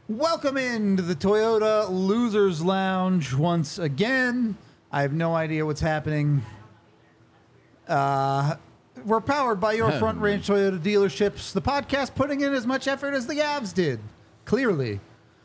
Welcome into the Toyota Losers Lounge once again. I have no idea what's happening. We're powered by your Front Range Toyota dealerships. The podcast putting in as much effort as the Avs did. Clearly.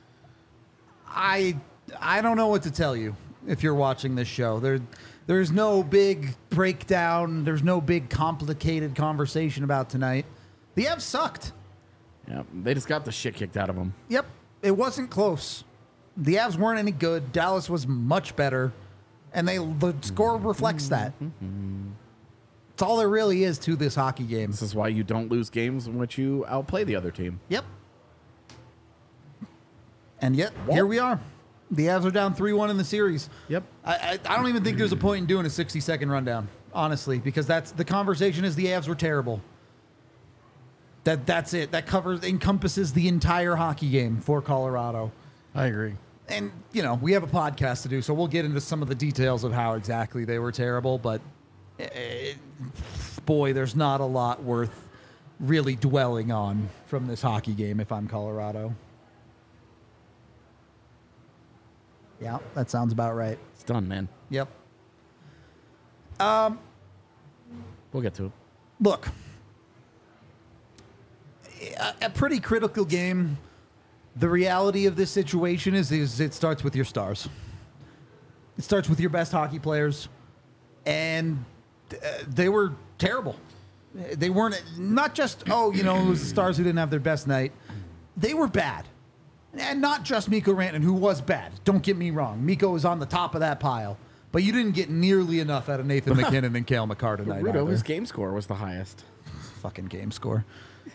I don't know what to tell you if you're watching this show. There's no big breakdown. There's no big complicated conversation about tonight. The Avs sucked. Yeah, they just got the shit kicked out of them. Yep. It wasn't close. The Avs weren't any good. Dallas was much better. And the score reflects that. It's all there really is to this hockey game. This is why you don't lose games in which you outplay the other team. Yep. And yet, here we are. The Avs are down 3-1 in the series. Yep. I don't even think there's a point in doing a 60-second rundown, honestly, because the conversation is the Avs were terrible. That's it. That encompasses the entire hockey game for Colorado. I agree. And, we have a podcast to do, so we'll get into some of the details of how exactly they were terrible, but boy, there's not a lot worth really dwelling on from this hockey game if I'm Colorado. Yeah, that sounds about right. It's done, man. Yep. We'll get to it. Look, a pretty critical game. The reality of this situation is it starts with your stars. It starts with your best hockey players, and they were terrible. They weren't not just, it was the stars who didn't have their best night. They were bad. And not just Mikko Rantanen, who was bad. Don't get me wrong. Mikko was on the top of that pile. But you didn't get nearly enough out of Nathan McKinnon and Cale Makar tonight. Rudo, his game score was the highest. Fucking game score.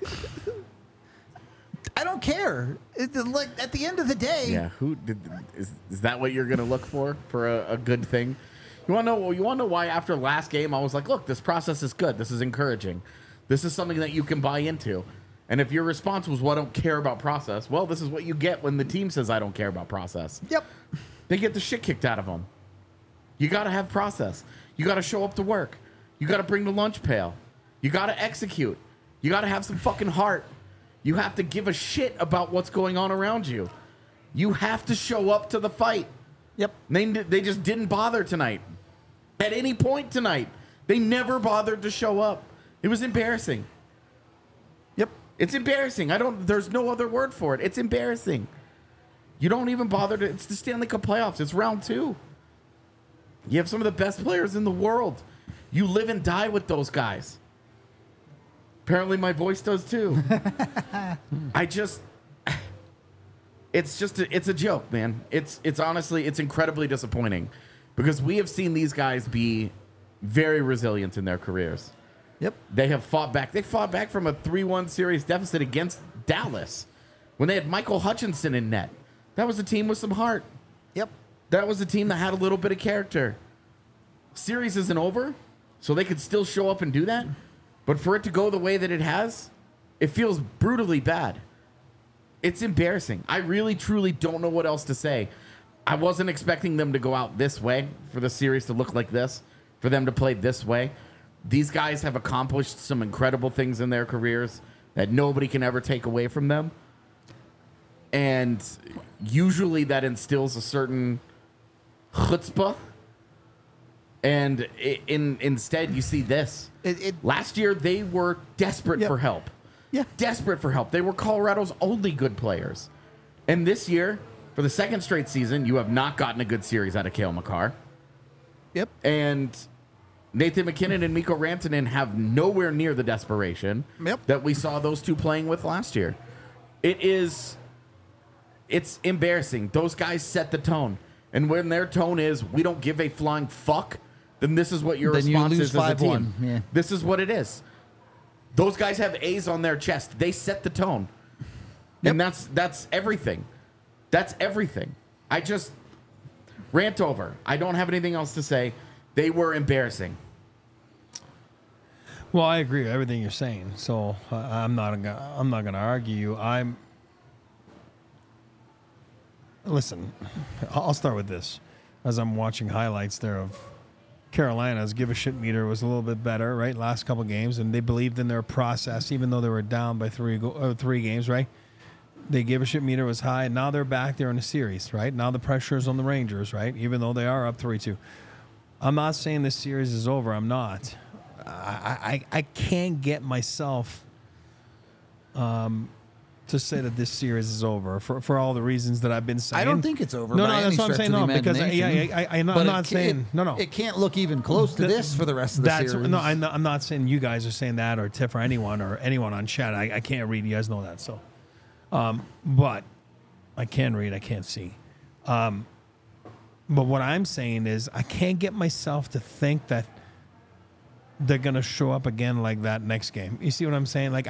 I don't care. Like at the end of the day. Yeah, is that what you're gonna look for a good thing? You wanna know why after last game I was like, look, this process is good. This is encouraging. This is something that you can buy into. And if your response was, well, I don't care about process, well, this is what you get when the team says I don't care about process. Yep. They get the shit kicked out of them. You got to have process. You got to show up to work. You got to bring the lunch pail. You got to execute. You got to have some fucking heart. You have to give a shit about what's going on around you. You have to show up to the fight. Yep. They just didn't bother tonight. At any point tonight, they never bothered to show up. It was embarrassing. Yep. It's embarrassing. There's no other word for it. It's embarrassing. You don't even bother to. It's the Stanley Cup playoffs. It's round 2. You have some of the best players in the world. You live and die with those guys. Apparently my voice does too. It's a joke, man. It's honestly, it's incredibly disappointing because we have seen these guys be very resilient in their careers. Yep. They have fought back. They fought back from a 3-1 series deficit against Dallas when they had Michael Hutchinson in net. That was a team with some heart. Yep. That was a team that had a little bit of character. Series isn't over, so they could still show up and do that. But for it to go the way that it has, it feels brutally bad. It's embarrassing. I really, truly don't know what else to say. I wasn't expecting them to go out this way, for the series to look like this, for them to play this way. These guys have accomplished some incredible things in their careers that nobody can ever take away from them. And usually that instills a certain chutzpah. And instead, you see this. Last year, they were desperate for help. Yeah. Desperate for help. They were Colorado's only good players. And this year, for the second straight season, you have not gotten a good series out of Cale Makar. Yep. And Nathan McKinnon and Mikko Rantanen have nowhere near the desperation that we saw those two playing with last year. It's embarrassing. Those guys set the tone. And when their tone is, we don't give a flying fuck, then this is what your response is as a team. Yeah. This is what it is. Those guys have A's on their chest. They set the tone. Yep. And that's everything. That's everything. I just rant over. I don't have anything else to say. They were embarrassing. Well, I agree with everything you're saying. So I'm not going to argue you. Listen, I'll start with this. As I'm watching highlights there of Carolina's give a shit meter was a little bit better, right? Last couple games, and they believed in their process, even though they were down by three games, right? They give a shit meter was high, and now they're back there in the series, right? Now the pressure is on the Rangers, right? Even though they are up 3-2. I'm not saying this series is over. I'm not. I can't get myself to say that this series is over for all the reasons that I've been saying. I don't think it's over. No, by that's any what I'm stretch saying. of No, the because imagination. I'm But not saying no. It can't look even close to this for the rest of the series. No, I'm not saying you guys are saying that, or Tiff, or anyone on chat. I can't read. You guys know that. So, but I can read. I can't see. But what I'm saying is, I can't get myself to think that they're gonna show up again like that next game. You see what I'm saying? Like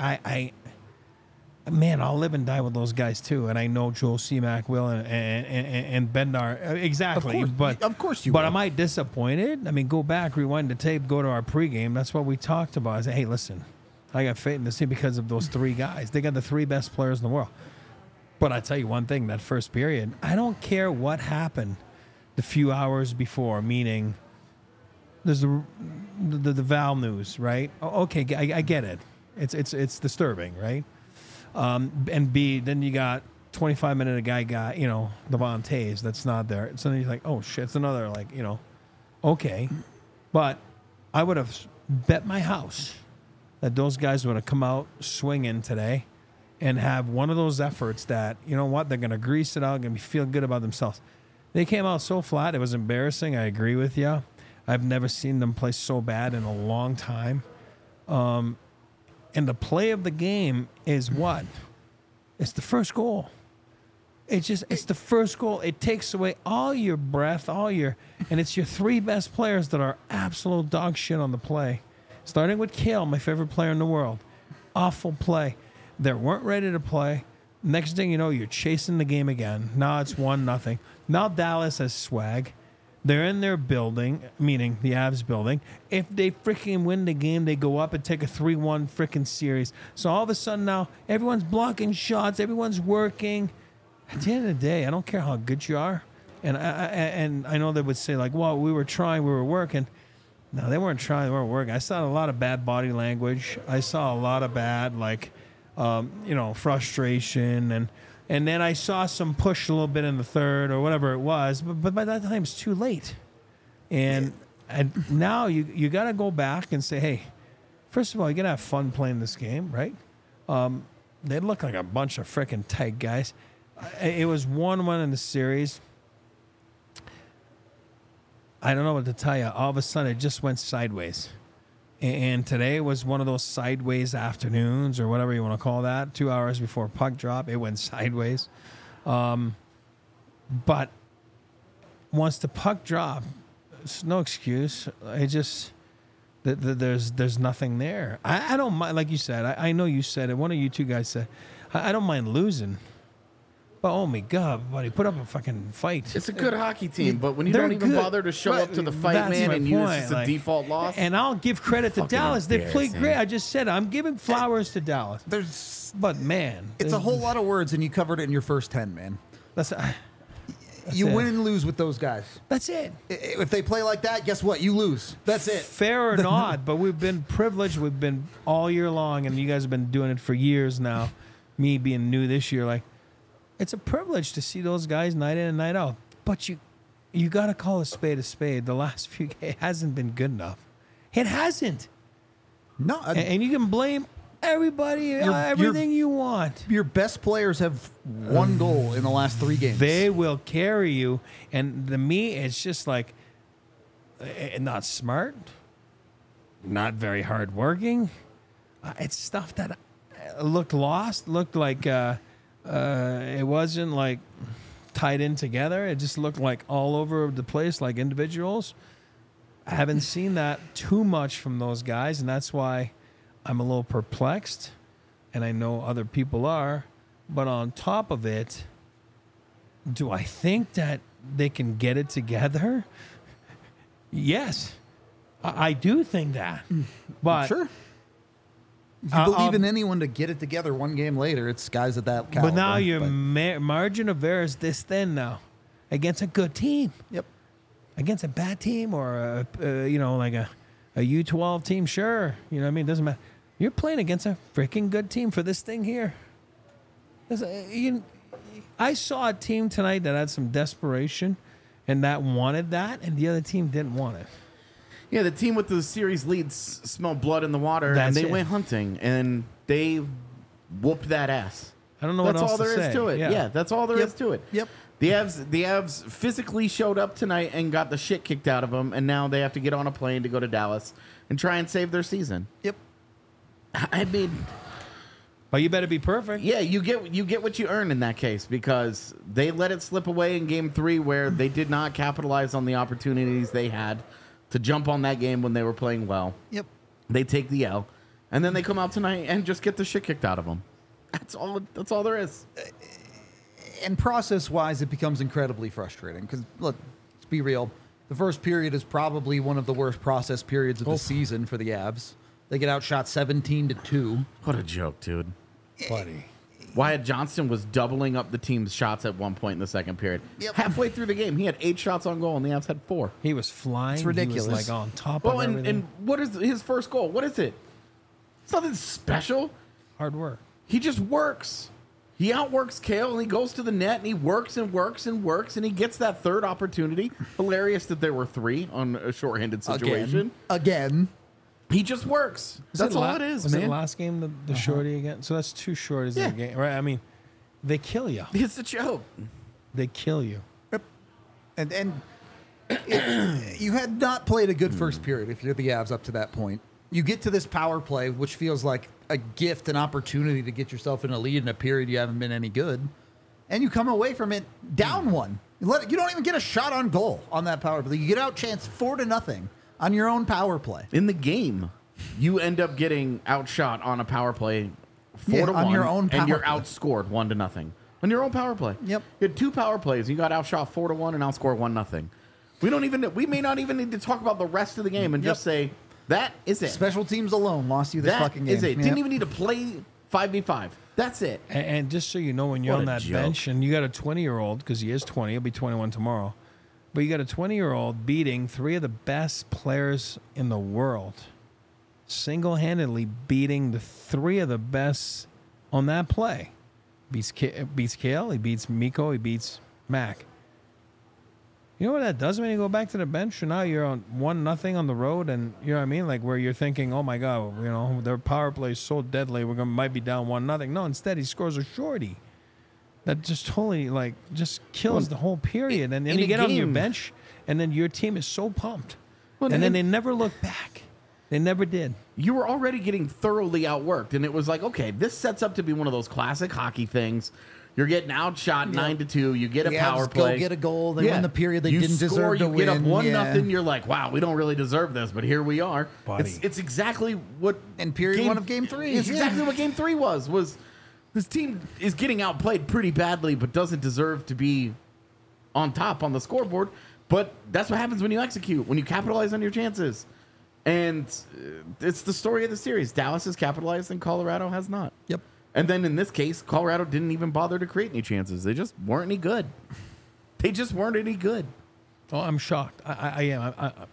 man, I'll live and die with those guys too, and I know Joel Seamack will, and Bednar exactly. Of course you But will. am I disappointed? I mean, go back, rewind the tape, go to our pregame. That's what we talked about. I said, hey, listen, I got faith in this team because of those three guys. They got the three best players in the world. But I tell you one thing: that first period, I don't care what happened the few hours before. Meaning, there's the Val news, right? Okay, I get it. It's disturbing, right? And B, then you got 25-minute a guy got, Devon Tays that's not there. So then you're like, oh shit, it's another okay. But I would have bet my house that those guys would have come out swinging today and have one of those efforts that, you know what, they're going to grease it out, going to feel good about themselves. They came out so flat, it was embarrassing. I agree with you. I've never seen them play so bad in a long time. And the play of the game is what? It's the first goal. It's the first goal. It takes away all your breath, and it's your three best players that are absolute dog shit on the play. Starting with Kale, my favorite player in the world. Awful play. They weren't ready to play. Next thing you know, you're chasing the game again. Now it's 1-0. Now Dallas has swag. They're in their building, meaning the Avs building. If they freaking win the game, they go up and take a 3-1 freaking series. So all of a sudden now, everyone's blocking shots. Everyone's working. At the end of the day, I don't care how good you are. And I know they would say, well, we were trying, we were working. No, they weren't trying, they weren't working. I saw a lot of bad body language. I saw a lot of bad, frustration. And then I saw some push a little bit in the third or whatever it was, but by that time it's too late. And now you got to go back and say, hey, first of all, you got to have fun playing this game, right? They look like a bunch of freaking tight guys. It was 1-1 in the series. I don't know what to tell you. All of a sudden, it just went sideways. And today was one of those sideways afternoons or whatever you want to call that. 2 hours before puck drop, it went sideways. But once the puck dropped, it's no excuse. There's nothing there. I don't mind, like you said. I know you said it. One of you two guys said, I don't mind losing. But oh my God, buddy, put up a fucking fight. It's a good hockey team, but when you They're don't even good. bother to show up to the fight, That's man, my and use point. this as a default loss. And I'll give credit to Fucking Dallas. They played embarrassing. great. I just said it. I'm giving flowers to Dallas. But man, It's a whole lot of words, and you covered it in your first 10, man. That's You it. win and lose with those guys. That's it. If they play like that, guess what? You lose. That's it. Fair or not, but we've been privileged. We've been all year long, and you guys have been doing it for years now. Me being new this year, it's a privilege to see those guys night in and night out. But you got to call a spade a spade. The last few games hasn't been good enough. It hasn't. No, And you can blame everybody, everything you want. your best players have one goal in the last 3 games. They will carry you. And to me, it's just not smart, not very hardworking. It's stuff that looked lost, looked like it wasn't tied in together. It just looked like all over the place, like individuals. I haven't seen that too much from those guys, and that's why I'm a little perplexed, and I know other people are. But on top of it, do I think that they can get it together? Yes, I do think that. But Sure. If you believe in anyone to get it together one game later, it's guys at that caliber. But now your margin of error is this thin now against a good team. Yep. Against a bad team or a U12 team, sure. You know what I mean? It doesn't matter. You're playing against a freaking good team for this thing here. I saw a team tonight that had some desperation and that wanted that, and the other team didn't want it. Yeah, the team with the series leads smelled blood in the water, That's and they it. went hunting, and they whooped that ass. I don't know That's what else all there to is say. to it. Yeah, that's all there is to it. Yep. The Avs physically showed up tonight and got the shit kicked out of them, and now they have to get on a plane to go to Dallas and try and save their season. Yep. I mean, But you better be perfect. yeah, you get what you earn in that case, because they let it slip away in Game 3 where they did not capitalize on the opportunities they had to jump on that game when they were playing well. Yep. They take the L, and then they come out tonight and just get the shit kicked out of them. That's all there is. And process-wise, it becomes incredibly frustrating because, look, let's be real. The first period is probably one of the worst process periods of the season for the Avs. They get outshot 17-2. What a joke, dude. Buddy. Wyatt Johnston was doubling up the team's shots at one point in the second period. Yep. Halfway through the game, he had 8 shots on goal, and the Avs had 4. He was flying. It's ridiculous. He was like on top Well, of and everything. what is his first goal? What is it? It's nothing special. Hard work. He just works. He outworks Kale, and he goes to the net, and he works and works and works, and he gets that third opportunity. Hilarious that there were 3 on a shorthanded situation. Again. He just works. That's all it is, was man. it last game, the shorty again? So that's 2 shorties in a game, right? I mean, they kill you. It's a joke. They kill you. And you had not played a good first period if you're the Avs up to that point. You get to this power play, which feels like a gift, an opportunity to get yourself in a lead in a period you haven't been any good, and you come away from it down 1. You don't even get a shot on goal on that power play. You get outchanced 4-0 on your own power play. In the game, you end up getting outshot on a power play 4-1 on your own and you're power play. outscored 1-0 on your own power play. Yep. You had 2 power plays. You got outshot 4-1 and outscored 1-0. We may not even need to talk about the rest of the game and just say that is it. Special teams alone lost you this That fucking game. is it. Yep. Didn't even need to play 5v5. That's it. And just so you know, when you're What on a that joke. bench and you got a 20-year-old, because he is 20, he'll be 21 tomorrow, but you got a 20-year-old beating 3 of the best players in the world, single-handedly beating the 3 of the best on that play. Beats Kale, he beats Mikko, he beats Mac. You know what that does when you go back to the bench and now you're on 1-0 on the road, and you know what I mean, like where you're thinking, oh my god, you know their power play is so deadly, might be down 1-0. No, instead he scores a shorty that just totally just kills the whole period, and then in you a get on your game- bench, and then your team is so pumped, Well, and then and- they never look back. They never did. You were already getting thoroughly outworked, and it was like, okay, this sets up to be one of those classic hockey things. You're getting outshot 9-2. You get a The power Avs play. go get a goal. They win the period they you didn't score, deserve to you get up win. 1-0. You're like, wow, we don't really deserve this, but here we are. Buddy. It's exactly what In period 1 of Game 3. It's exactly what Game 3 was this team is getting outplayed pretty badly, but doesn't deserve to be on top on the scoreboard. But that's what happens when you execute, when you capitalize on your chances. And it's the story of the series. Dallas has capitalized and Colorado has not. Yep. And then in this case, Colorado didn't even bother to create any chances. They just weren't any good. They just weren't any good. Oh, I'm shocked. I am.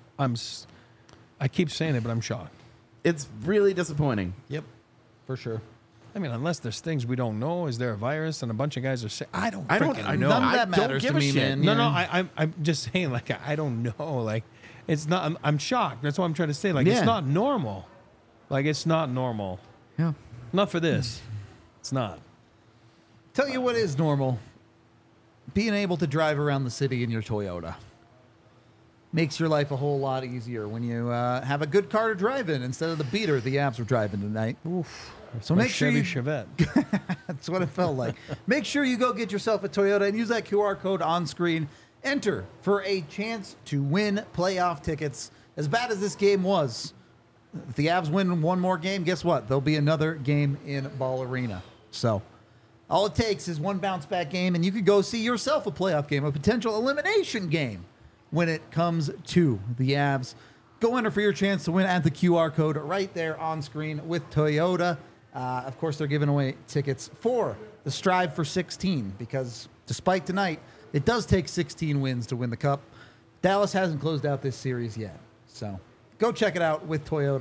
I keep saying it, but I'm shocked. It's really disappointing. Yep. For sure. I mean, unless there's things we don't know, is there a virus and a bunch of guys are sick? I don't I freaking don't know. None of I that don't matters give to a me, shit. man. No, Yeah. no, I'm just saying, like, I don't know. Like, it's not, I'm shocked. That's what I'm trying to say. Like, Yeah. it's not normal. Like, it's not normal. Yeah. Not for this. It's not. Tell you what is normal. Being able to drive around the city in your Toyota makes your life a whole lot easier when you have a good car to drive in instead of the beater the Avs were driving tonight. Oof. So My make sure Chevy you Chevette. That's what it felt like. Make sure you go get yourself a Toyota and use that QR code on screen. Enter for a chance to win playoff tickets. As bad as this game was, if the Avs win one more game, guess what? There'll be another game in Ball Arena. So all it takes is one bounce back game, and you could go see yourself a playoff game, a potential elimination game when it comes to the Avs. Go enter for your chance to win at the QR code right there on screen with Toyota. Of course, they're giving away tickets for the Strive for 16 because despite tonight, it does take 16 wins to win the Cup. Dallas hasn't closed out this series yet. So go check it out with Toyota.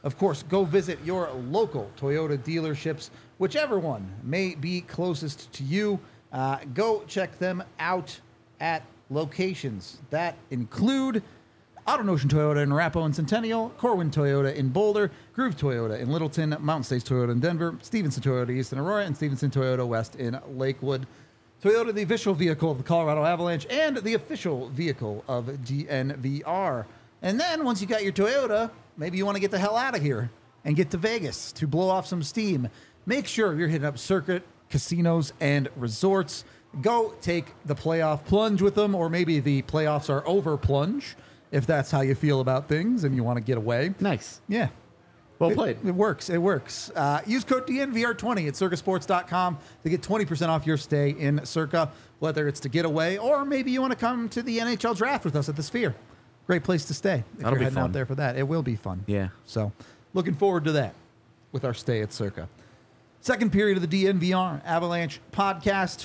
Of course, go visit your local Toyota dealerships, whichever one may be closest to you. Go check them out at locations that include AutoNotion Toyota in Arapahoe and Centennial, Corwin Toyota in Boulder, Groove Toyota in Littleton, Mountain States Toyota in Denver, Stevenson Toyota East in Aurora, and Stevenson Toyota West in Lakewood. Toyota, the official vehicle of the Colorado Avalanche and the official vehicle of DNVR. And then once you got your Toyota, maybe you want to get the hell out of here and get to Vegas to blow off some steam. Make sure you're hitting up Circuit Casinos and Resorts. Go take the playoff plunge with them, or maybe the playoffs are over plunge, if that's how you feel about things and you want to get away. Nice. Yeah. Well played. It works. It works. Use code DNVR20 at circasports.com to get 20% off your stay in Circa, whether it's to get away or maybe you want to come to the NHL draft with us at the Sphere. Great place to stay if That'll you're be heading fun. out there for that. It will be fun. Yeah. So looking forward to that with our stay at Circa. Second period of the DNVR Avalanche podcast.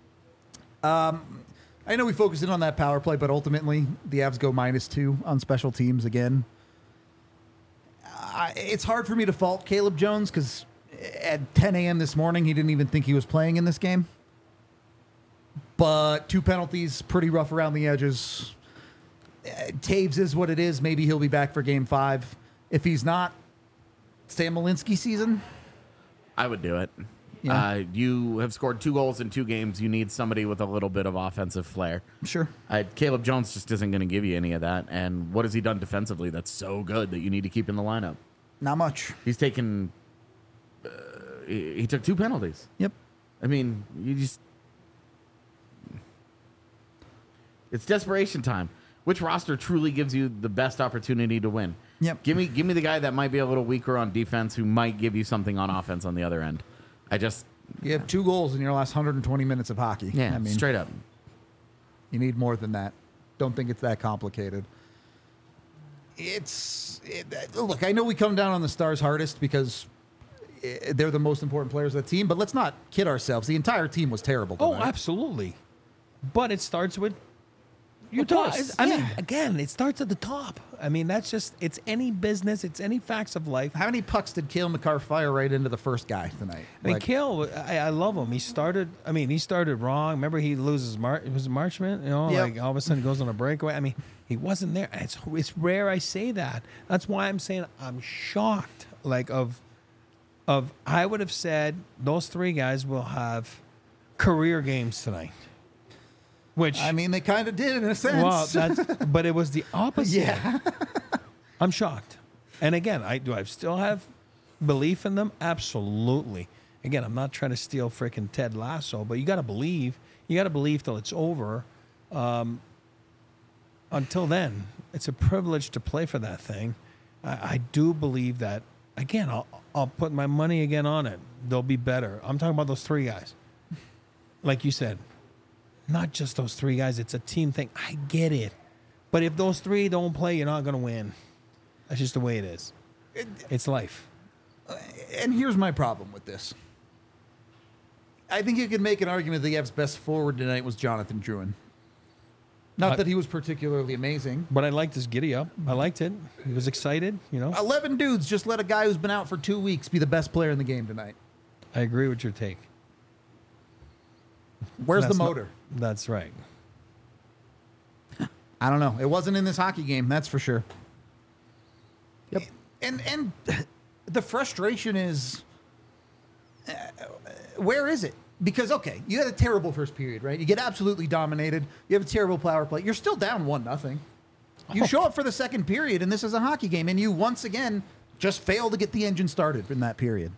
I know we focused in on that power play, but ultimately the Avs go -2 on special teams again. It's hard for me to fault Caleb Jones because at 10 a.m. this morning, he didn't even think he was playing in this game. But 2 penalties, pretty rough around the edges. Taves is what it is. Maybe he'll be back for game 5. If he's not, Sam Malinsky season. I would do it. Yeah. You have scored 2 goals in 2 games. You need somebody with a little bit of offensive flair. Sure. Caleb Jones just isn't going to give you any of that. And what has he done defensively that's so good that you need to keep in the lineup? Not much. He's taken. He took 2 penalties. Yep. I mean, you just. It's desperation time. Which roster truly gives you the best opportunity to win? Yep. Give me the guy that might be a little weaker on defense who might give you something on offense on the other end. You have 2 goals in your last 120 minutes of hockey. Yeah, I mean, straight up. You need more than that. Don't think it's that complicated. Look, I know we come down on the Stars hardest because they're the most important players of the team, but let's not kid ourselves. The entire team was terrible Oh, tonight. absolutely. But it starts with your Of course, top. I mean, yeah. again, it starts at the top. I mean, that's just, it's any business, it's any facts of life. How many pucks did Cale McCarr fire right into the first guy tonight? I mean, Kale, I love him. He started wrong. Remember, he loses it was Marchment, Yep. like all of a sudden goes on a breakaway. I mean, he wasn't there. It's rare I say that. That's why I'm saying I'm shocked. Like I would have said those 3 guys will have career games tonight. Which I mean, they kind of did in a sense. well, but it was the opposite. Yeah. I'm shocked. And again, I still have belief in them? Absolutely. Again, I'm not trying to steal freaking Ted Lasso, but you got to believe. You got to believe till it's over. Until then, it's a privilege to play for that thing. I do believe that. Again, I'll put my money again on it. They'll be better. I'm talking about those 3 guys. Like you said, not just those 3 guys. It's a team thing. I get it. But if those 3 don't play, you're not going to win. That's just the way it is. It's life. And here's my problem with this. I think you could make an argument that the Avs' best forward tonight was Jonathan Drouin. Not that he was particularly amazing. But I liked his giddy up. I liked it. He was excited, 11 dudes just let a guy who's been out for 2 weeks be the best player in the game tonight. I agree with your take. Where's That's the not- motor? That's right. I don't know. It wasn't in this hockey game, that's for sure. Yep. And the frustration is, where is it? Because, okay, you had a terrible first period, right? You get absolutely dominated. You have a terrible power play. You're still down 1-0. You show up for the second period, and this is a hockey game, and you once again just fail to get the engine started in that period.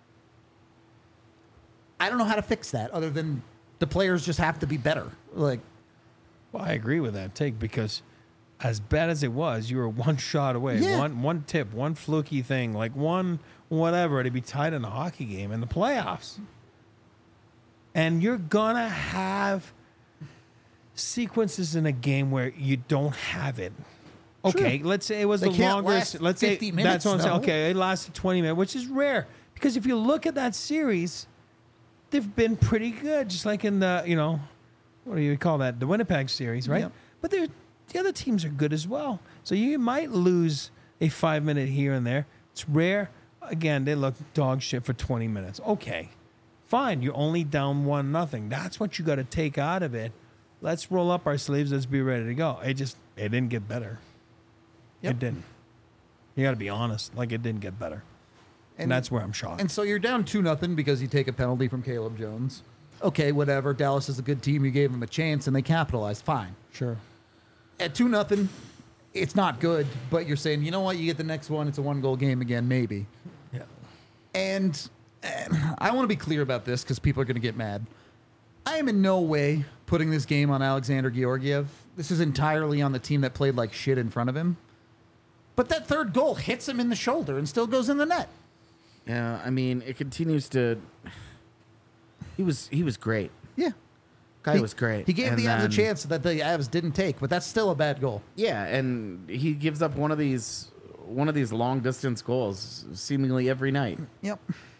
I don't know how to fix that other than the players just have to be better. Like, Well, I agree with that take because as bad as it was, you were 1 shot away. Yeah. One tip, one fluky thing, like one whatever to be tied in a hockey game in the playoffs. And you're going to have sequences in a game where you don't have it. Okay, Sure. let's say it was They the can't longest. last Let's 50 say minutes, that's what I'm saying. though. Okay, it lasted 20 minutes, which is rare because if you look at that series, they've been pretty good, just like in the what do you call that? The Winnipeg series, right? Yep. But the other teams are good as well. So you might lose a 5 minute here and there, It's rare. Again, they look dog shit for 20 minutes. Okay, fine. You're only down 1-0. That's what you got to take out of it. Let's roll up our sleeves. Let's be ready to go. It didn't get better. Yep. It didn't. You got to be honest. Like, it didn't get better. And that's where I'm shocked. And so you're down 2-0 because you take a penalty from Caleb Jones. Okay, whatever. Dallas is a good team. You gave them a chance, and they capitalized. Fine. Sure. At 2-0, it's not good, but you're saying, you know what? You get the next one. It's a 1-goal game again, maybe. Yeah. And I want to be clear about this because people are going to get mad. I am in no way putting this game on Alexander Georgiev. This is entirely on the team that played like shit in front of him. But that third goal hits him in the shoulder and still goes in the net. Yeah, I mean, it continues to. He was great. Yeah. Guy was great. He gave And the Avs a then- chance that the Avs didn't take, but that's still a bad goal. Yeah, and he gives up one of these long distance goals seemingly every night. Yep.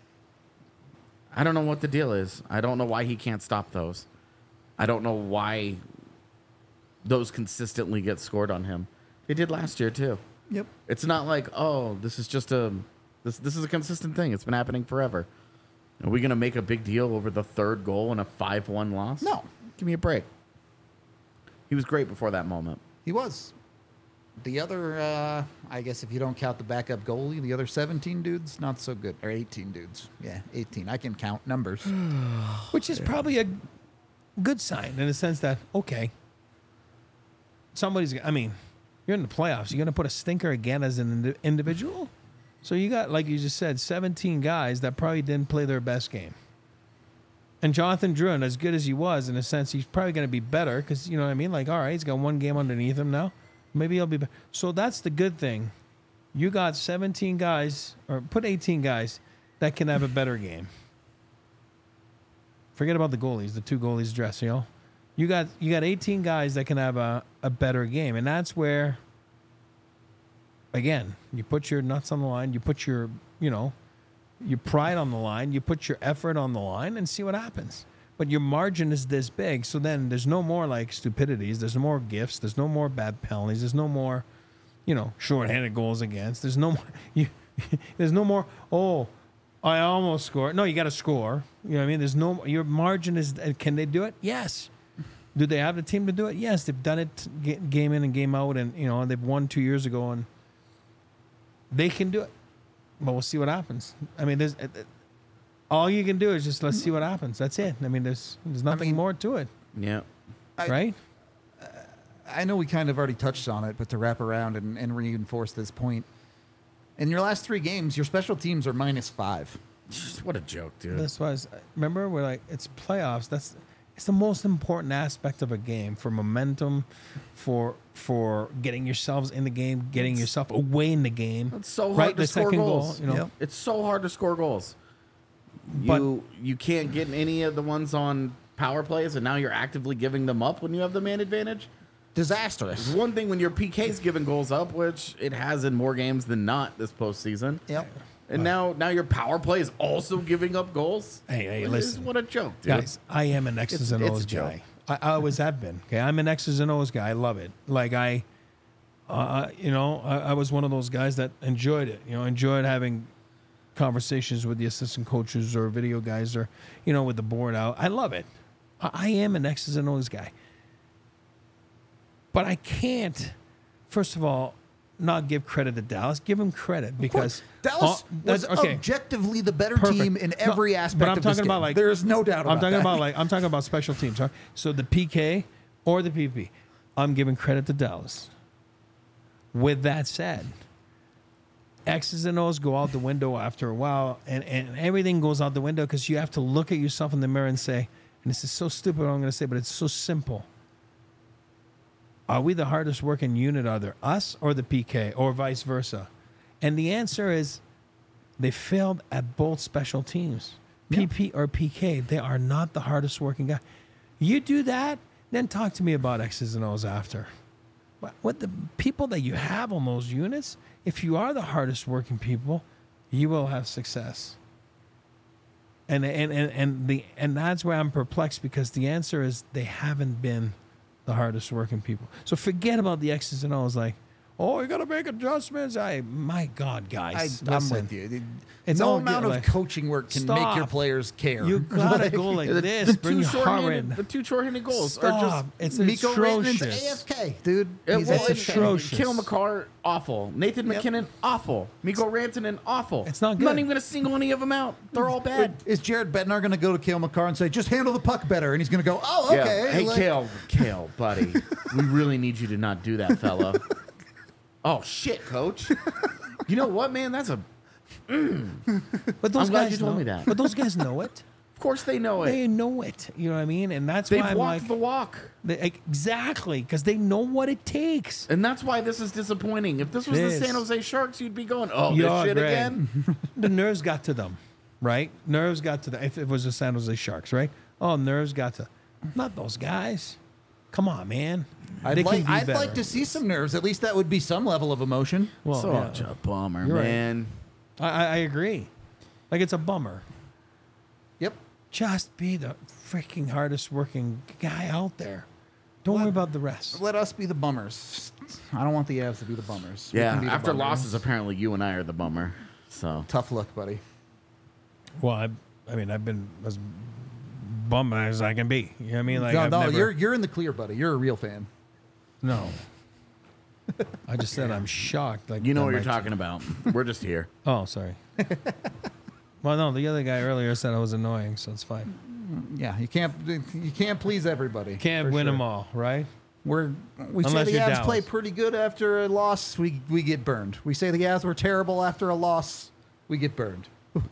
I don't know what the deal is. I don't know why he can't stop those. I don't know why those consistently get scored on him. They did last year too. Yep. It's not like, oh, this is just this is a consistent thing. It's been happening forever. Are we gonna make a big deal over the third goal in a 5-1 loss? No. Give me a break. He was great before that moment. He was. The other, I guess if you don't count the backup goalie, the other 17 dudes, not so good. Or 18 dudes. Yeah, 18. I can count numbers. Which is probably a good sign in the sense that, okay, somebody's, I mean, you're in the playoffs. You're going to put a stinker again as an individual? So you got, like you just said, 17 guys that probably didn't play their best game. And Jonathan Drouin, as good as he was, in a sense, he's probably going to be better because, you know what I mean? Like, all right, he's got one game underneath him now. Maybe he'll be better. So that's the good thing. You got 17 guys, or put 18 guys, that can have a better game. Forget about the goalies, the two goalies dress, you know? You got 18 guys that can have a better game. And that's where, again, you put your nuts on the line, you put your, you know, your pride on the line, you put your effort on the line and see what happens. But your margin is this big, so then there's no more like stupidities, there's no more gifts, there's no more bad penalties, there's no more, you know, shorthanded goals against. There's no more there's no more, oh, I almost scored. No, you got to score. You know what I mean? There's no, your margin is, can they do it? Yes. Do they have the team to do it? Yes. They've done it game in and game out, and, you know, they've won 2 years ago, and they can do it. But we'll see what happens. I mean, there's all you can do is just let's see what happens. That's it. I mean, there's nothing more to it, Yeah. right? I know we kind of already touched on it, but to wrap around and reinforce this point, in your last 3 games, your special teams are -5. What a joke, dude. That's why. Remember, we're like, it's playoffs. It's the most important aspect of a game for momentum, for getting yourselves in the game, getting yourself away in the game. It's so hard right? to The score second goals. goal, you know. Yep. It's so hard to score goals. But- You can't get any of the ones on power plays, and now you're actively giving them up when you have the man advantage. Disastrous. It's one thing when your PK's giving goals up, which it has in more games than not this postseason. Yep. And now your power play is also giving up goals. Hey, What is- listen. what a joke, dude. Guys, I am an X's and it's O's a joke. guy. I always have been. Okay, I'm an X's and O's guy. I love it. Like I was one of those guys that enjoyed it. You know, enjoyed having conversations with the assistant coaches or video guys or, you know, with the board out. I love it. I am an X's and O's guy. But I can't, first of all, not give credit to Dallas. Give them credit because Dallas was objectively the better Perfect. team in No, every aspect but I'm of this talking about game. like There is no doubt about I'm talking that. about like I'm talking about special teams. Right? So the PK or the PP, I'm giving credit to Dallas. With that said, X's and O's go out the window after a while, and everything goes out the window because you have to look at yourself in the mirror and say, and this is so stupid what I'm going to say, but it's so simple. Are we the hardest working unit, either us or the PK, or vice versa? And the answer is they failed at both special teams. PP or PK, they are not the hardest working guy. You do that, then talk to me about X's and O's after. But what the people that you have on those units, if you are the hardest working people, you will have success. And that's where I'm perplexed because the answer is they haven't been the hardest working people. So forget about the X's and O's. Like, oh, you got to make adjustments. My God, guys. I'm listen. with you. It's no all amount good, of like, coaching work can make your stop. players care. You got to go like this. Bring Harmon. The two shorthanded goals are Stop. just. It's Miko Rantanen's atrocious. AFK, dude. He's Well, AFK. it's atrocious. Kale McCarr, awful. Nathan Yep. McKinnon, awful. Miko Rantanen, awful. It's not I'm good. not even going to single any of them out. They're all bad. Is Jared Bednar going to go to Kale McCarr and say, just handle the puck better? And he's going to go, oh, okay. Yeah. Hey, like- Kale, buddy. We really need you to not do that, fella. Oh, shit, coach. You know what, man? That's a. But those I'm glad guys you told know, me that. But those guys know it. Of course they know it. They know it. You know what I mean? And that's They've why I'm walked like, the walk. exactly, because they know what it takes. And that's why this is disappointing. If this was the This. San Jose Sharks, you'd be going, oh, Yeah, this shit Greg. again? The nerves got to them, right? Nerves got to them. If it was the San Jose Sharks, right? Oh, nerves got to. Not those guys. Come on, man. I'd, They can like, be I'd better. like to see some nerves. At least that would be some level of emotion. Well, Such yeah. a bummer, You're right. man. I agree. Like, it's a bummer. Yep. Just be the freaking hardest working guy out there. Don't worry about the rest. Let us be the bummers. I don't want the Avs to be the bummers. We Yeah, can be the after bummers. losses, apparently you and I are the bummer. So Tough luck, buddy. Well, I mean, I've been as bummed as I can be. You know what I mean? Like, no, I've no, never, you're in the clear, buddy. You're a real fan. No. I just said I'm shocked. Like, you know that what you're my- talking about. We're just here. Oh, sorry. Well, no, the other guy earlier said I was annoying, so it's fine. Yeah, you can't please everybody. Can't for win sure. them all, right? We say Unless the you're Avs Dallas. play pretty good after a loss, we get burned. We say the Avs were terrible after a loss, we get burned.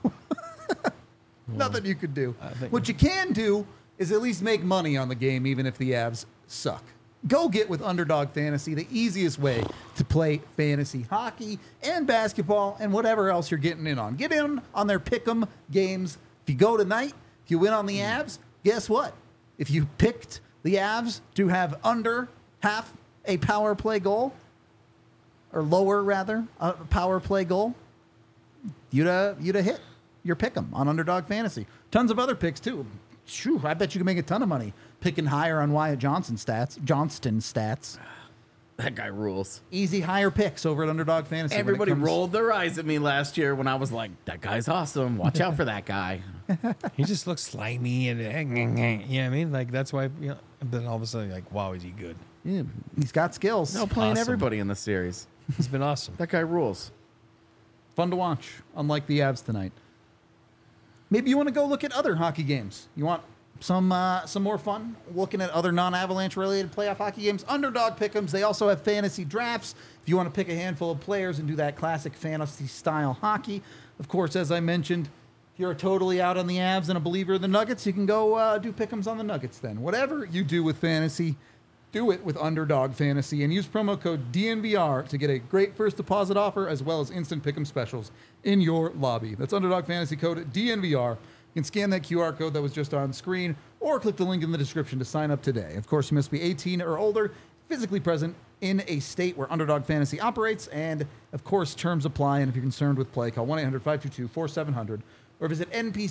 Nothing you could do. think- What you can do is at least make money on the game, even if the Avs suck. Go get with Underdog Fantasy, the easiest way to play fantasy hockey and basketball and whatever else you're getting in on. Get in on their pick'em games. If you go tonight, if you win on the Avs, guess what? If you picked the Avs to have under half a power play goal, or lower rather, a power play goal, you'd have hit your pick'em on Underdog Fantasy. Tons of other picks too. Shoo, I bet you can make a ton of money picking higher on Wyatt Johnston stats. That guy rules. Easy higher picks over at Underdog Fantasy. when it Everybody comes- rolled their eyes at me last year when I was like, that guy's awesome. Watch out for that guy. He just looks slimy and you know what I mean? Like, that's why, you know, then all of a sudden, like, wow, is he good? Yeah, he's got skills. No, playing Awesome. everybody in the series. He's been awesome. That guy rules. Fun to watch, unlike the Avs tonight. Maybe you want to go look at other hockey games. You want some more fun looking at other non-Avalanche related playoff hockey games? Underdog Pick'ems. They also have fantasy drafts. If you want to pick a handful of players and do that classic fantasy style hockey, of course, as I mentioned, if you're totally out on the Avs and a believer in the Nuggets, you can go do Pick'ems on the Nuggets then. Whatever you do with fantasy, do it with Underdog Fantasy and use promo code DNVR to get a great first deposit offer as well as instant pick'em specials in your lobby. That's Underdog Fantasy code DNVR. You can scan that QR code that was just on screen or click the link in the description to sign up today. Of course, you must be 18 or older, physically present in a state where Underdog Fantasy operates, and of course, terms apply. And if you're concerned with play, call 1-800-522-4700 or visit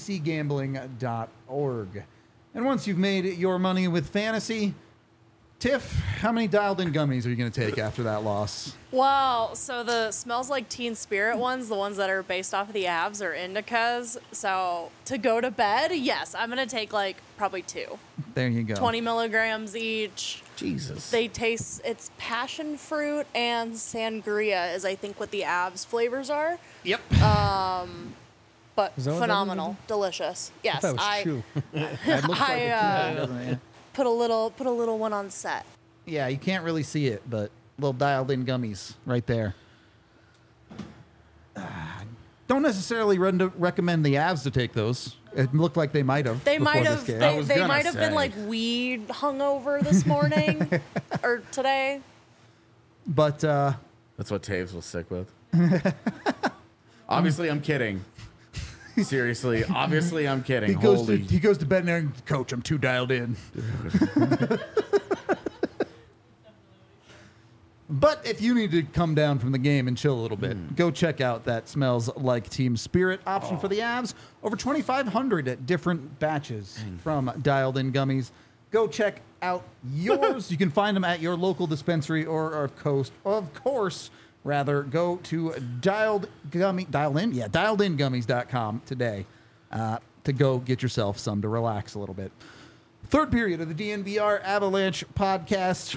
npcgambling.org. And once you've made your money with fantasy, Tiff, how many dialed-in gummies are you going to take after that loss? Well, so the Smells Like Teen Spirit ones, the ones that are based off of the Avs, are indicas. So to go to bed, yes, I'm going to take like probably 2. There you go. 20 milligrams each. Jesus. They taste, it's passion fruit and sangria is I think what the Avs flavors are. Yep. But Is that what that phenomenal. Delicious. Yes. That was true. It looks like it, doesn't it? put a little one on set. Yeah, you can't really see it, but little dialed-in gummies right there. Don't necessarily recommend the Avs to take those. It looked like they might have. They before might this have game. they, was they gonna might have been say. like weed hungover this morning or today. But That's what Taves was sick with. Obviously, I'm kidding. Seriously, obviously, I'm kidding. he goes Holy. to bed and Coach, I'm too dialed in. But if you need to come down from the game and chill a little bit, go check out that Smells Like Team Spirit option for the Avs. Over 2,500 different batches from Dialed In Gummies. Go check out yours. You can find them at your local dispensary or of course, go to dialedingummies.com today to go get yourself some to relax a little bit. Third period of the DNVR Avalanche podcast.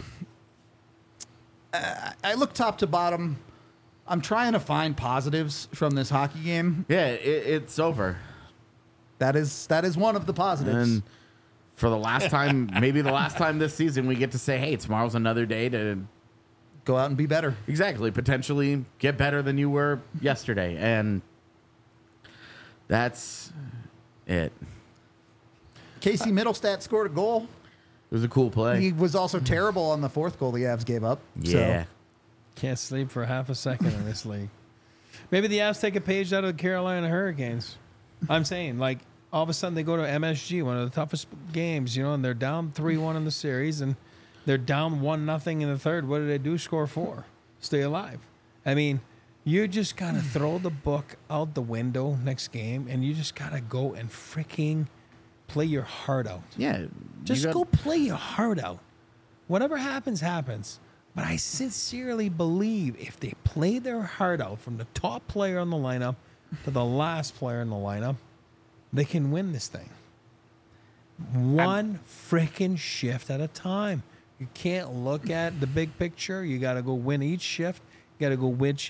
I look top to bottom. I'm trying to find positives from this hockey game. Yeah, it's over. That is one of the positives. And for the last time, maybe the last time this season, we get to say, hey, tomorrow's another day to Go out and be better. exactly potentially get better than you were yesterday. And that's it. Casey Middlestat scored a goal. It was a cool play. He was also terrible on the fourth goal the Avs gave up. Yeah. So, Can't sleep for half a second in this league. Maybe the Avs take a page out of the Carolina Hurricanes. I'm saying, like, all of a sudden they go to MSG, one of the toughest games, and they're down 3-1 in the series, and they're down 1-0 in the third. What do they do? Score 4. Stay alive. I mean, you just got to throw the book out the window next game, and you just got to go and freaking play your heart out. Yeah. Just go play your heart out. Whatever happens, happens. But I sincerely believe if they play their heart out from the top player in the lineup to the last player in the lineup, they can win this thing. One freaking shift at a time. You can't look at the big picture. You got to go win each shift. You got to go which.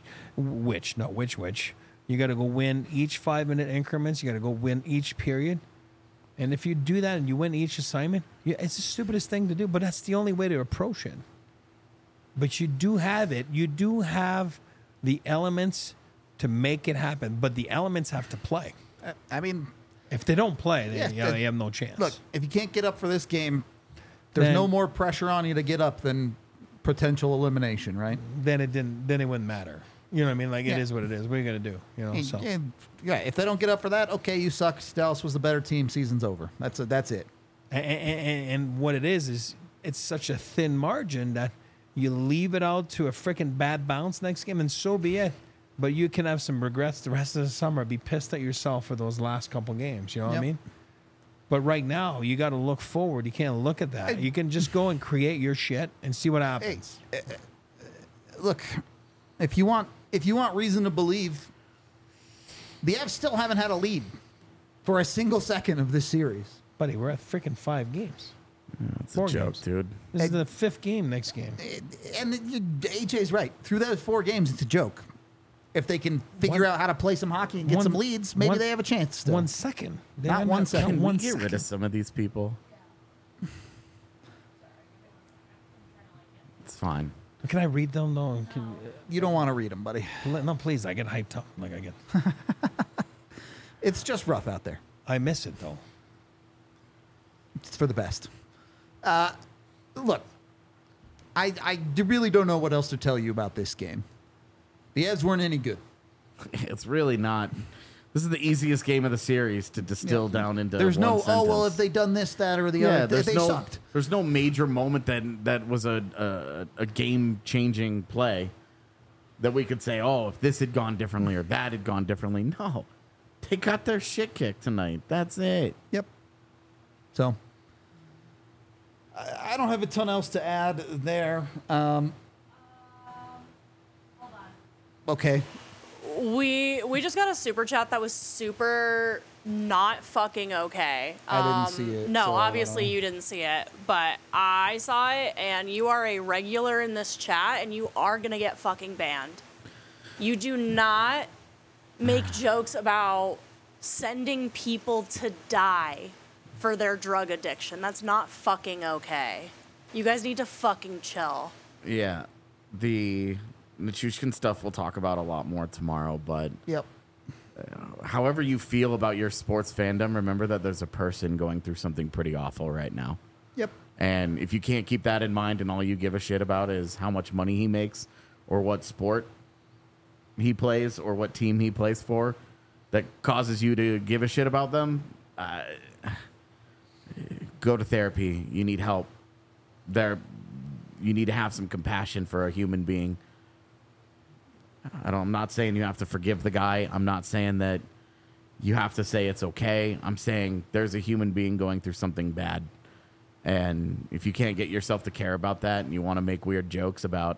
You got to go win each 5-minute increments. You got to go win each period. And if you do that and you win each assignment, it's the stupidest thing to do, but that's the only way to approach it. But you do have it. You do have the elements to make it happen, but the elements have to play. I mean, If they don't play, Yeah, they have no chance. look, if you can't get up for this game, there's Then- no more pressure on you to get up than potential elimination, right? then it wouldn't matter. You know what I mean? Like, Yeah. it is what it is. What are you going to do? So. Yeah, if they don't get up for that, okay, you suck. Dallas was the better team. Season's over. That's it. And what it is it's such a thin margin that you leave it out to a freaking bad bounce next game, and so be it. But you can have some regrets the rest of the summer. Be pissed at yourself for those last couple games. You know what I Yep. mean? But right now, you got to look forward. You can't look at that. You can just go and create your shit and see what happens. Look, if you want reason to believe, the Avs still haven't had a lead for a single second of this series. Buddy, we're at freaking 5 games. That's 4 a joke, games. dude. This is the 5th game next game. And AJ's right. Through those 4 games, it's a joke. If they can figure out how to play some hockey and get some leads, maybe they have a chance still. 1 second. They Not haven't 1 had- second. Can One we get rid second. of some of these people? It's fine. Can I read them though? You don't want to read them, buddy. No, please. I get hyped up. Like I get. It's just rough out there. I miss it though. It's for the best. Look, I really don't know what else to tell you about this game. The Avs weren't any good. It's really not. This is the easiest game of the series to distill down into. There's one no, sentence. well, if they done this, that, or the Yeah, other, there's they no. sucked. There's no major moment that was a game changing play that we could say, oh, if this had gone differently or that had gone differently. No, they got their shit kicked tonight. That's it. Yep. So, I don't have a ton else to add there. Okay. We just got a super chat that was super not fucking okay. I didn't see it, No, so I don't obviously know. you didn't see it, but I saw it, and you are a regular in this chat, and you are gonna get fucking banned. You do not make jokes about sending people to die for their drug addiction. That's not fucking okay. You guys need to fucking chill. Yeah, the Nichushkin stuff we'll talk about a lot more tomorrow, but Yep. however you feel about your sports fandom, remember that there's a person going through something pretty awful right now. Yep. And if you can't keep that in mind and all you give a shit about is how much money he makes or what sport he plays or what team he plays for that causes you to give a shit about them, go to therapy. You need help. You need to have some compassion for a human being. I'm not saying you have to forgive the guy. I'm not saying that you have to say it's okay. I'm saying there's a human being going through something bad. And if you can't get yourself to care about that and you want to make weird jokes about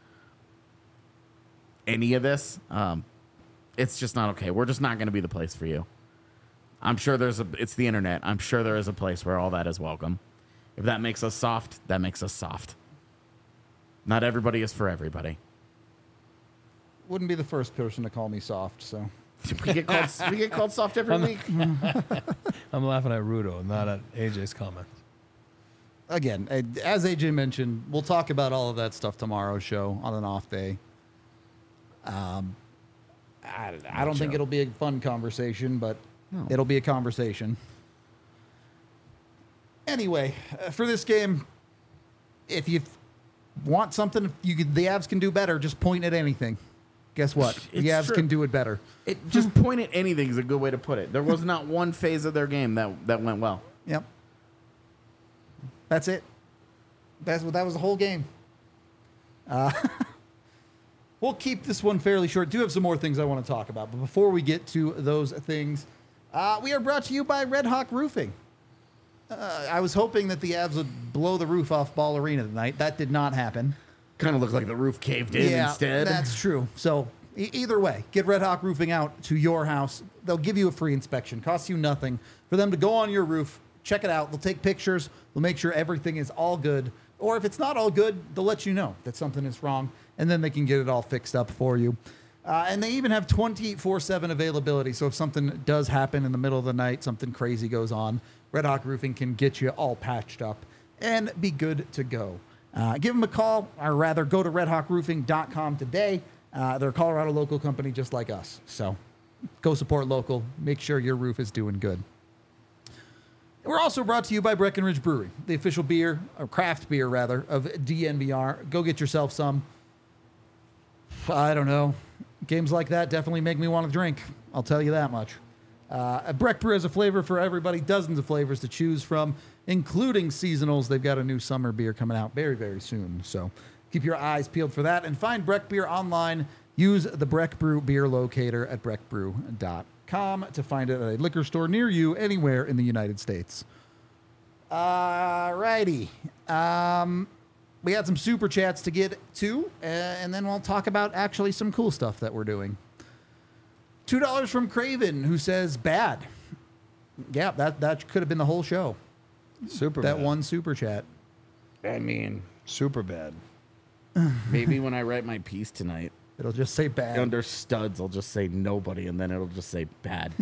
any of this, it's just not okay. We're just not going to be the place for you. I'm sure it's the internet. I'm sure there is a place where all that is welcome. If that makes us soft, that makes us soft. Not everybody is for everybody. Wouldn't be the first person to call me soft, so. We get called soft every week. I'm laughing at Rudo, not at AJ's comment. Again, as AJ mentioned, we'll talk about all of that stuff tomorrow's show on an off day. I don't think it'll be a fun conversation, but it'll be a conversation. Anyway, for this game, if you want something, the Avs can do better. Just point at anything. Guess what? The Avs can do it better. Just point at anything is a good way to put it. There was not one phase of their game that went well. Yep. That's it. That was the whole game. We'll keep this one fairly short. Do have some more things I want to talk about, but before we get to those things, we are brought to you by Red Hawk Roofing. I was hoping that the Avs would blow the roof off Ball Arena tonight. That did not happen. Kind of looked like the roof caved in instead. That's true. So either way, get Red Hawk Roofing out to your house. They'll give you a free inspection. Costs you nothing for them to go on your roof, check it out. They'll take pictures. They'll make sure everything is all good. Or if it's not all good, they'll let you know that something is wrong, and then they can get it all fixed up for you. And they even have 24/7 availability. So if something does happen in the middle of the night, something crazy goes on, Red Hawk Roofing can get you all patched up and be good to go. Give them a call, or rather go to redhawkroofing.com today. They're a Colorado local company just like us. So go support local. Make sure your roof is doing good. We're also brought to you by Breckenridge Brewery, the official beer, or craft beer rather, of DNVR. Go get yourself some. I don't know. Games like that definitely make me want to drink. I'll tell you that much. Breck Brew has a flavor for everybody, dozens of flavors to choose from, including seasonals. They've got a new summer beer coming out very, very soon. So keep your eyes peeled for that. And find Breck Beer online. Use the Breck Brew beer locator at breckbrew.com to find it at a liquor store near you anywhere in the United States. Alrighty. We got some super chats to get to, and then we'll talk about actually some cool stuff that we're doing. $2 from Craven, who says bad. Yeah, that could have been the whole show. Super That bad. one super chat. I mean, Super bad. maybe when I write my piece tonight, It'll just say bad. under studs, I'll just say nobody, and then it'll just say bad.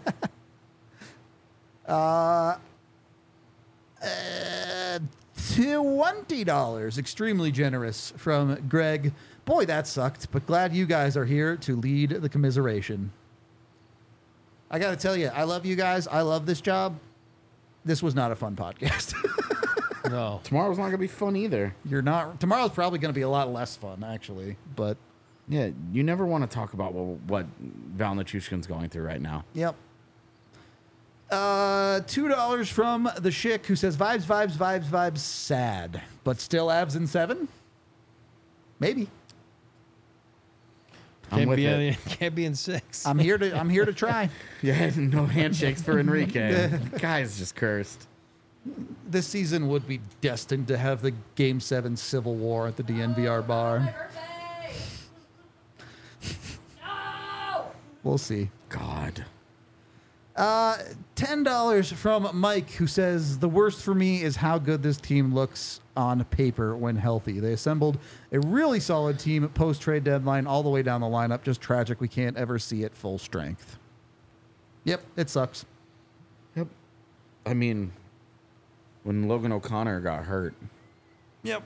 $20. Extremely generous from Greg. Boy, that sucked, but glad you guys are here to lead the commiseration. I got to tell you, I love you guys. I love this job. This was not a fun podcast. No. Tomorrow's not going to be fun either. You're not. Tomorrow's probably going to be a lot less fun, actually. But Yeah, you never want to talk about what Val Nichushkin's going through right now. yep. $2 from the Schick, who says vibes, sad, but still abs in 7. Maybe. I'm with it. Can't be in 6. I'm here to try. Yeah, no handshakes for Enrique. Guy's just cursed. This season would be destined to have the Game 7 Civil War at the DNVR bar. We'll see. God. $10 from Mike, who says, the worst for me is how good this team looks on paper when healthy. They assembled a really solid team post-trade deadline all the way down the lineup. Just tragic we can't ever see it full strength. Yep, it sucks. Yep. I mean, when Logan O'Connor got hurt, Yep.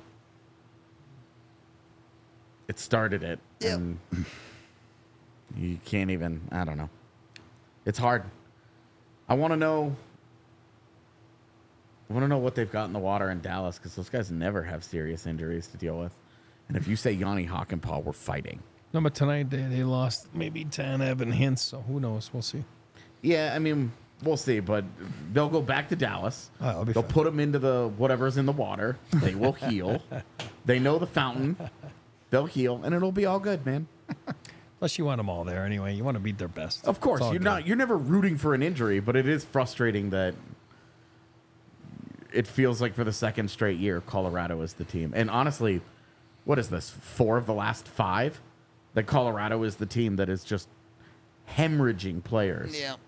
it started it. Yep. And you can't even, I don't know. It's hard. I want to know what they've got in the water in Dallas, because those guys never have serious injuries to deal with. And if you say Yanni Hockenpah, we're fighting. No, but tonight they lost maybe Tanev and Hintz, so who knows? We'll see. Yeah, I mean, we'll see, but they'll go back to Dallas. Oh, it'll be They'll fine. put them into the whatever's in the water. They will heal. They know the fountain. They'll heal, and it'll be all good, man. Plus, you want them all there anyway. You want to beat their best. Of course, It's all good. you're never rooting for an injury, but it is frustrating that it feels like for the second straight year, Colorado is the team. And honestly, what is this? 4 of the last 5 that Colorado is the team that is just hemorrhaging players. Yeah.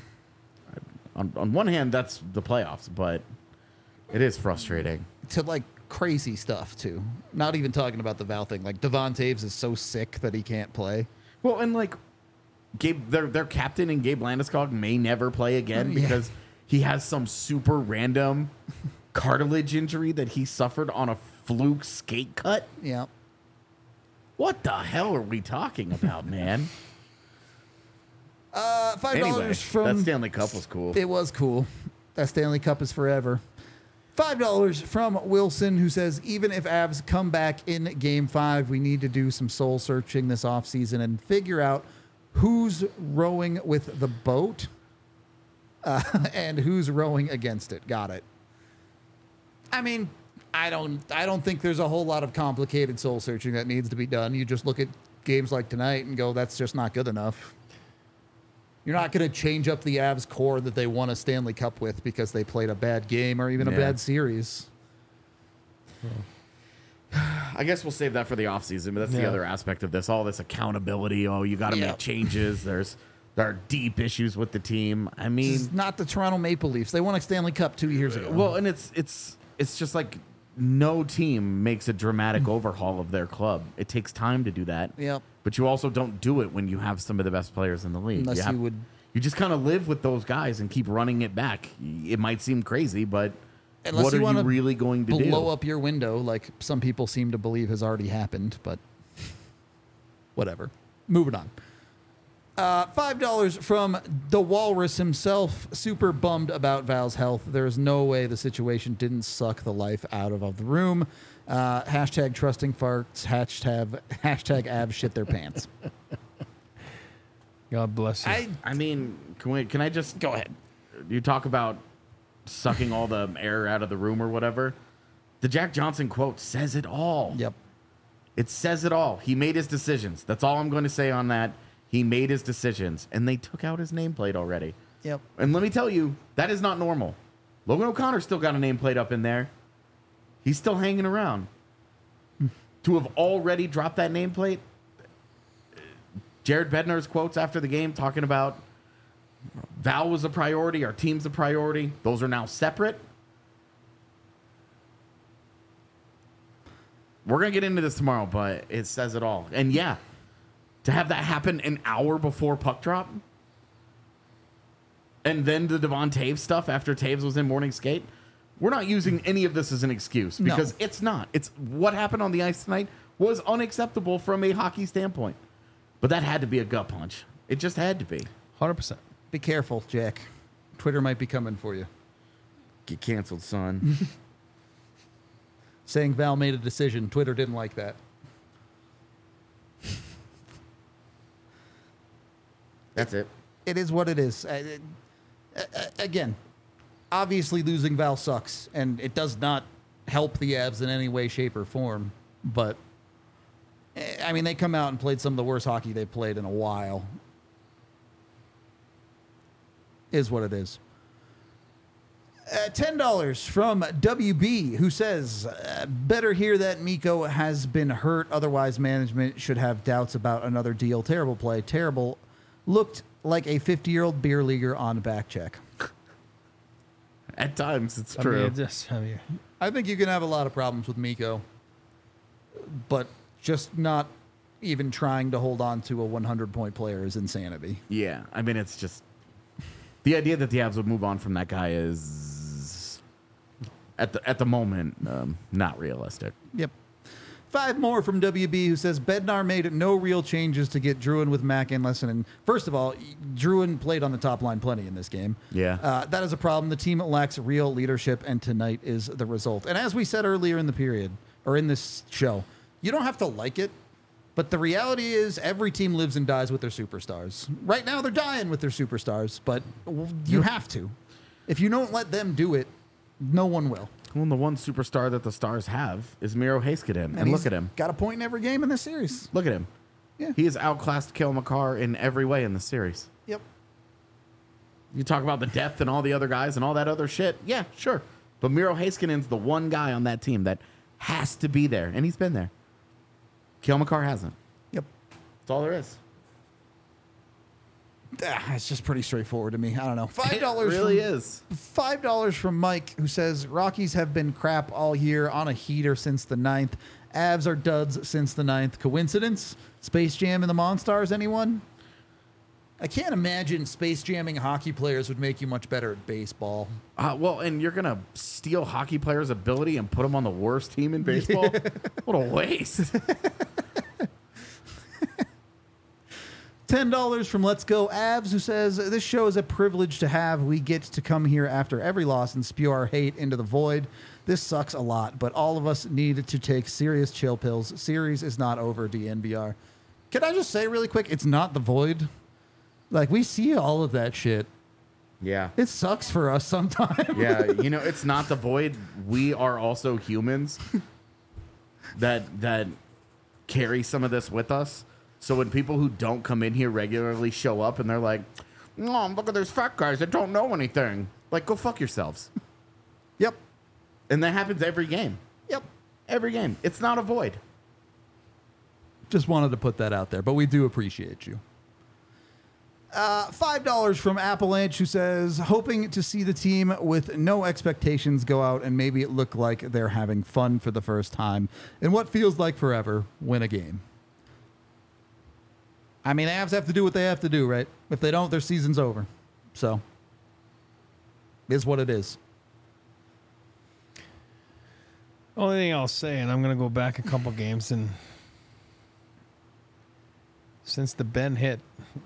On one hand, that's the playoffs, but it is frustrating. To like crazy stuff too. Not even talking about the Val thing. Like Devon Taves is so sick that he can't play. Well, and like Gabe, their captain and Gabe Landeskog may never play again because he has some super random cartilage injury that he suffered on a fluke skate cut. Yeah. What the hell are we talking about, man? $5 Anyway, from that Stanley Cup was cool. It was cool. That Stanley Cup is forever. $5 from Wilson, who says, even if Avs come back in Game 5, we need to do some soul searching this offseason and figure out who's rowing with the boat and who's rowing against it. Got it. I mean, I don't think there's a whole lot of complicated soul searching that needs to be done. You just look at games like tonight and go, that's just not good enough. You're not going to change up the Avs core that they won a Stanley Cup with because they played a bad game or even a bad series. I guess we'll save that for the offseason, but that's the other aspect of this. All this accountability. Oh, you got to make changes. There are deep issues with the team. I mean, This is not the Toronto Maple Leafs. They won a Stanley Cup 2 years ago. well, and it's just like no team makes a dramatic overhaul of their club. It takes time to do that. Yep. But you also don't do it when you have some of the best players in the league. Unless you would You just kind of live with those guys and keep running it back. It might seem crazy, but Unless what you are wanna you really going to do? blow up your window like some people seem to believe has already happened, but whatever. Moving on. $5 from the Walrus himself. Super bummed about Val's health. There's no way the situation didn't suck the life out of the room. Hashtag trusting farts. Hashtag abs shit their pants. God bless you. I mean, can I just Go ahead. You talk about sucking all the air out of the room or whatever. The Jack Johnson quote says it all. Yep. It says it all. He made his decisions. That's all I'm going to say on that. He made his decisions, and they took out his nameplate already. Yep. And let me tell you, that is not normal. Logan O'Connor still got a nameplate up in there. He's still hanging around. To have already dropped that nameplate, Jared Bednar's quotes after the game talking about Val was a priority, our team's a priority. Those are now separate. We're going to get into this tomorrow, but it says it all. And yeah, to have that happen an hour before puck drop, and then the Devon Taves stuff after Taves was in morning skate, we're not using any of this as an excuse because it's not. It's what happened on the ice tonight was unacceptable from a hockey standpoint. But that had to be a gut punch. It just had to be. 100%. Be careful, Jack. Twitter might be coming for you. Get canceled, son. Saying Val made a decision. Twitter didn't like that. That's it. It is what it is. Again, obviously losing Val sucks, and it does not help the Avs in any way, shape, or form. But, I mean, they come out and played some of the worst hockey they've played in a while. Is what it is. $10 from WB, who says, better hear that Mikko has been hurt. Otherwise, management should have doubts about another deal. Terrible play. Terrible. Looked like a 50-year-old beer leaguer on back check. At times, it's I true. mean, I think you can have a lot of problems with Mikko, but just not even trying to hold on to a 100-point player is insanity. Yeah, I mean, it's just the idea that the Avs would move on from that guy is at the moment not realistic. Yep. 5 more from WB, who says Bednar made no real changes to get Druin with Mac and Lessinen. First of all, Druin played on the top line plenty in this game. Yeah. That is a problem. The team lacks real leadership, and tonight is the result. And as we said earlier in the period, or in this show, you don't have to like it, but the reality is every team lives and dies with their superstars. Right now, they're dying with their superstars, but you have to. If you don't let them do it, no one will. Well, the one superstar that the Stars have is Miro Heiskanen. And look at him. Got a point in every game in this series. Look at him. Yeah. He has outclassed Cale Makar in every way in the series. Yep. You talk about the depth and all the other guys and all that other shit. Yeah, sure. But Miro Heiskanen's the one guy on that team that has to be there, and he's been there. Cale Makar hasn't. Yep. That's all there is. It's just pretty straightforward to me. I don't know. $5 It really is. $5 from Mike, who says Rockies have been crap all year, on a heater since the 9th. Avs are duds since the 9th. Coincidence? Space Jam and the Monstars, anyone? I can't imagine Space Jamming hockey players would make you much better at baseball. Well, and you're going to steal hockey players' ability and put them on the worst team in baseball? What a waste. $10 from Let's Go Avs, who says, this show is a privilege to have. We get to come here after every loss and spew our hate into the void. This sucks a lot, but all of us need to take serious chill pills. Series is not over, DNVR. Can I just say really quick, it's not the void. Like, we see all of that shit. Yeah. It sucks for us sometimes. Yeah, you know, it's not the void. We are also humans that carry some of this with us. So when people who don't come in here regularly show up and they're like, "Oh, look at those fat guys that don't know anything," like, go fuck yourselves. Yep. And that happens every game. Yep. Every game. It's not a void. Just wanted to put that out there, but we do appreciate you. $5 from Appalachian, who says, hoping to see the team with no expectations go out and maybe it look like they're having fun for the first time in what feels like forever, win a game. I mean, Avs have to do what they have to do, right? If they don't, their season's over. So, is what it is. Only thing I'll say, and I'm going to go back a couple games, and since the Ben hit,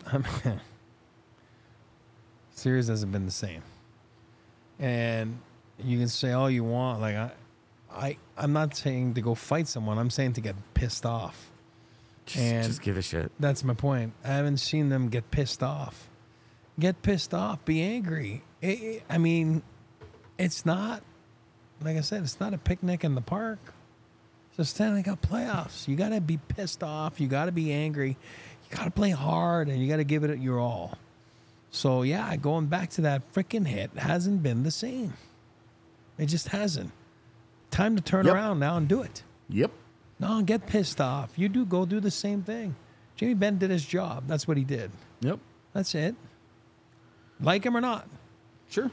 series hasn't been the same. And you can say all you want. Like I'm not saying to go fight someone. I'm saying to get pissed off. Just give a shit. That's my point. I haven't seen them get pissed off. Get pissed off. Be angry. I mean, it's not, like I said, it's not a picnic in the park. It's a Stanley Cup playoffs. You got to be pissed off. You got to be angry. You got to play hard, and you got to give it your all. So, yeah, going back to that freaking hit hasn't been the same. It just hasn't. Time to turn around now and do it. Yep. No, get pissed off. You go do the same thing. Jamie Benn did his job. That's what he did. Yep. That's it. Like him or not. Sure.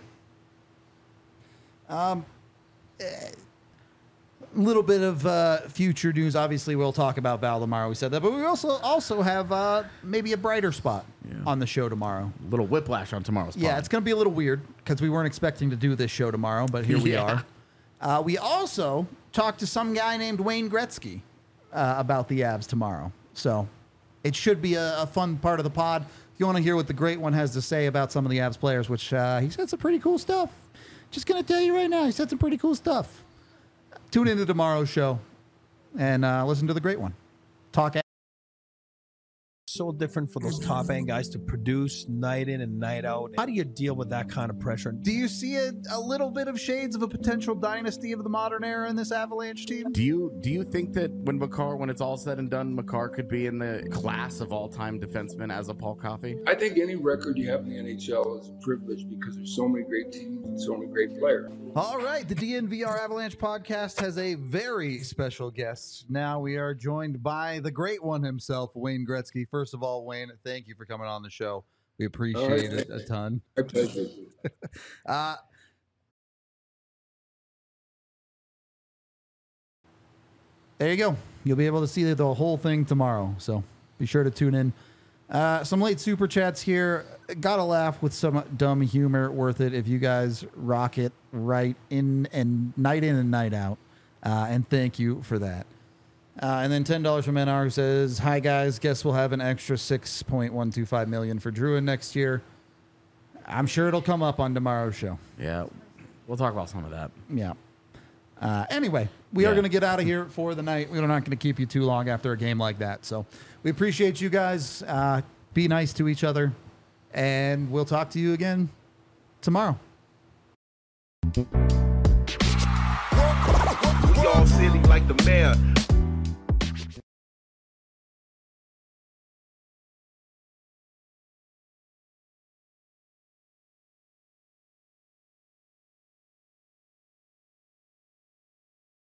Little bit of future news. Obviously, we'll talk about Val tomorrow. We said that, but we also have maybe a brighter spot on the show tomorrow. A little whiplash on tomorrow's pod. Yeah, it's going to be a little weird because we weren't expecting to do this show tomorrow, but here we are. We also talked to some guy named Wayne Gretzky about the Avs tomorrow. So it should be a fun part of the pod. If you want to hear what the Great One has to say about some of the Avs players, which he said some pretty cool stuff. Just going to tell you right now, he said some pretty cool stuff. Tune into tomorrow's show and listen to the Great One. Talk. So different for those top end guys to produce night in and night out. How do you deal with that kind of pressure? Do you see a little bit of shades of a potential dynasty of the modern era in this Avalanche team? Do you think that when it's all said and done, Makar could be in the class of all-time defensemen as a Paul Coffey? I think any record you have in the NHL is a privilege because there's so many great teams and so many great players. All right, the DNVR Avalanche podcast has a very special guest. Now we are joined by the Great One himself, Wayne Gretzky. First of all, Wayne, thank you for coming on the show. We appreciate it a ton. My pleasure. There you go. You'll be able to see the whole thing tomorrow, so be sure to tune in. Some late super chats here. Got to laugh with some dumb humor. Worth it if you guys rock it right in and night out. And thank you for that. And then $10 from NR, who says, hi guys, guess we'll have an extra $6.125 million for Druin next year. I'm sure it'll come up on tomorrow's show. Yeah, we'll talk about some of that. Yeah. Anyway, we are going to get out of here for the night. We're not going to keep you too long after a game like that. So we appreciate you guys. Be nice to each other. And we'll talk to you again tomorrow. We all silly like the mayor.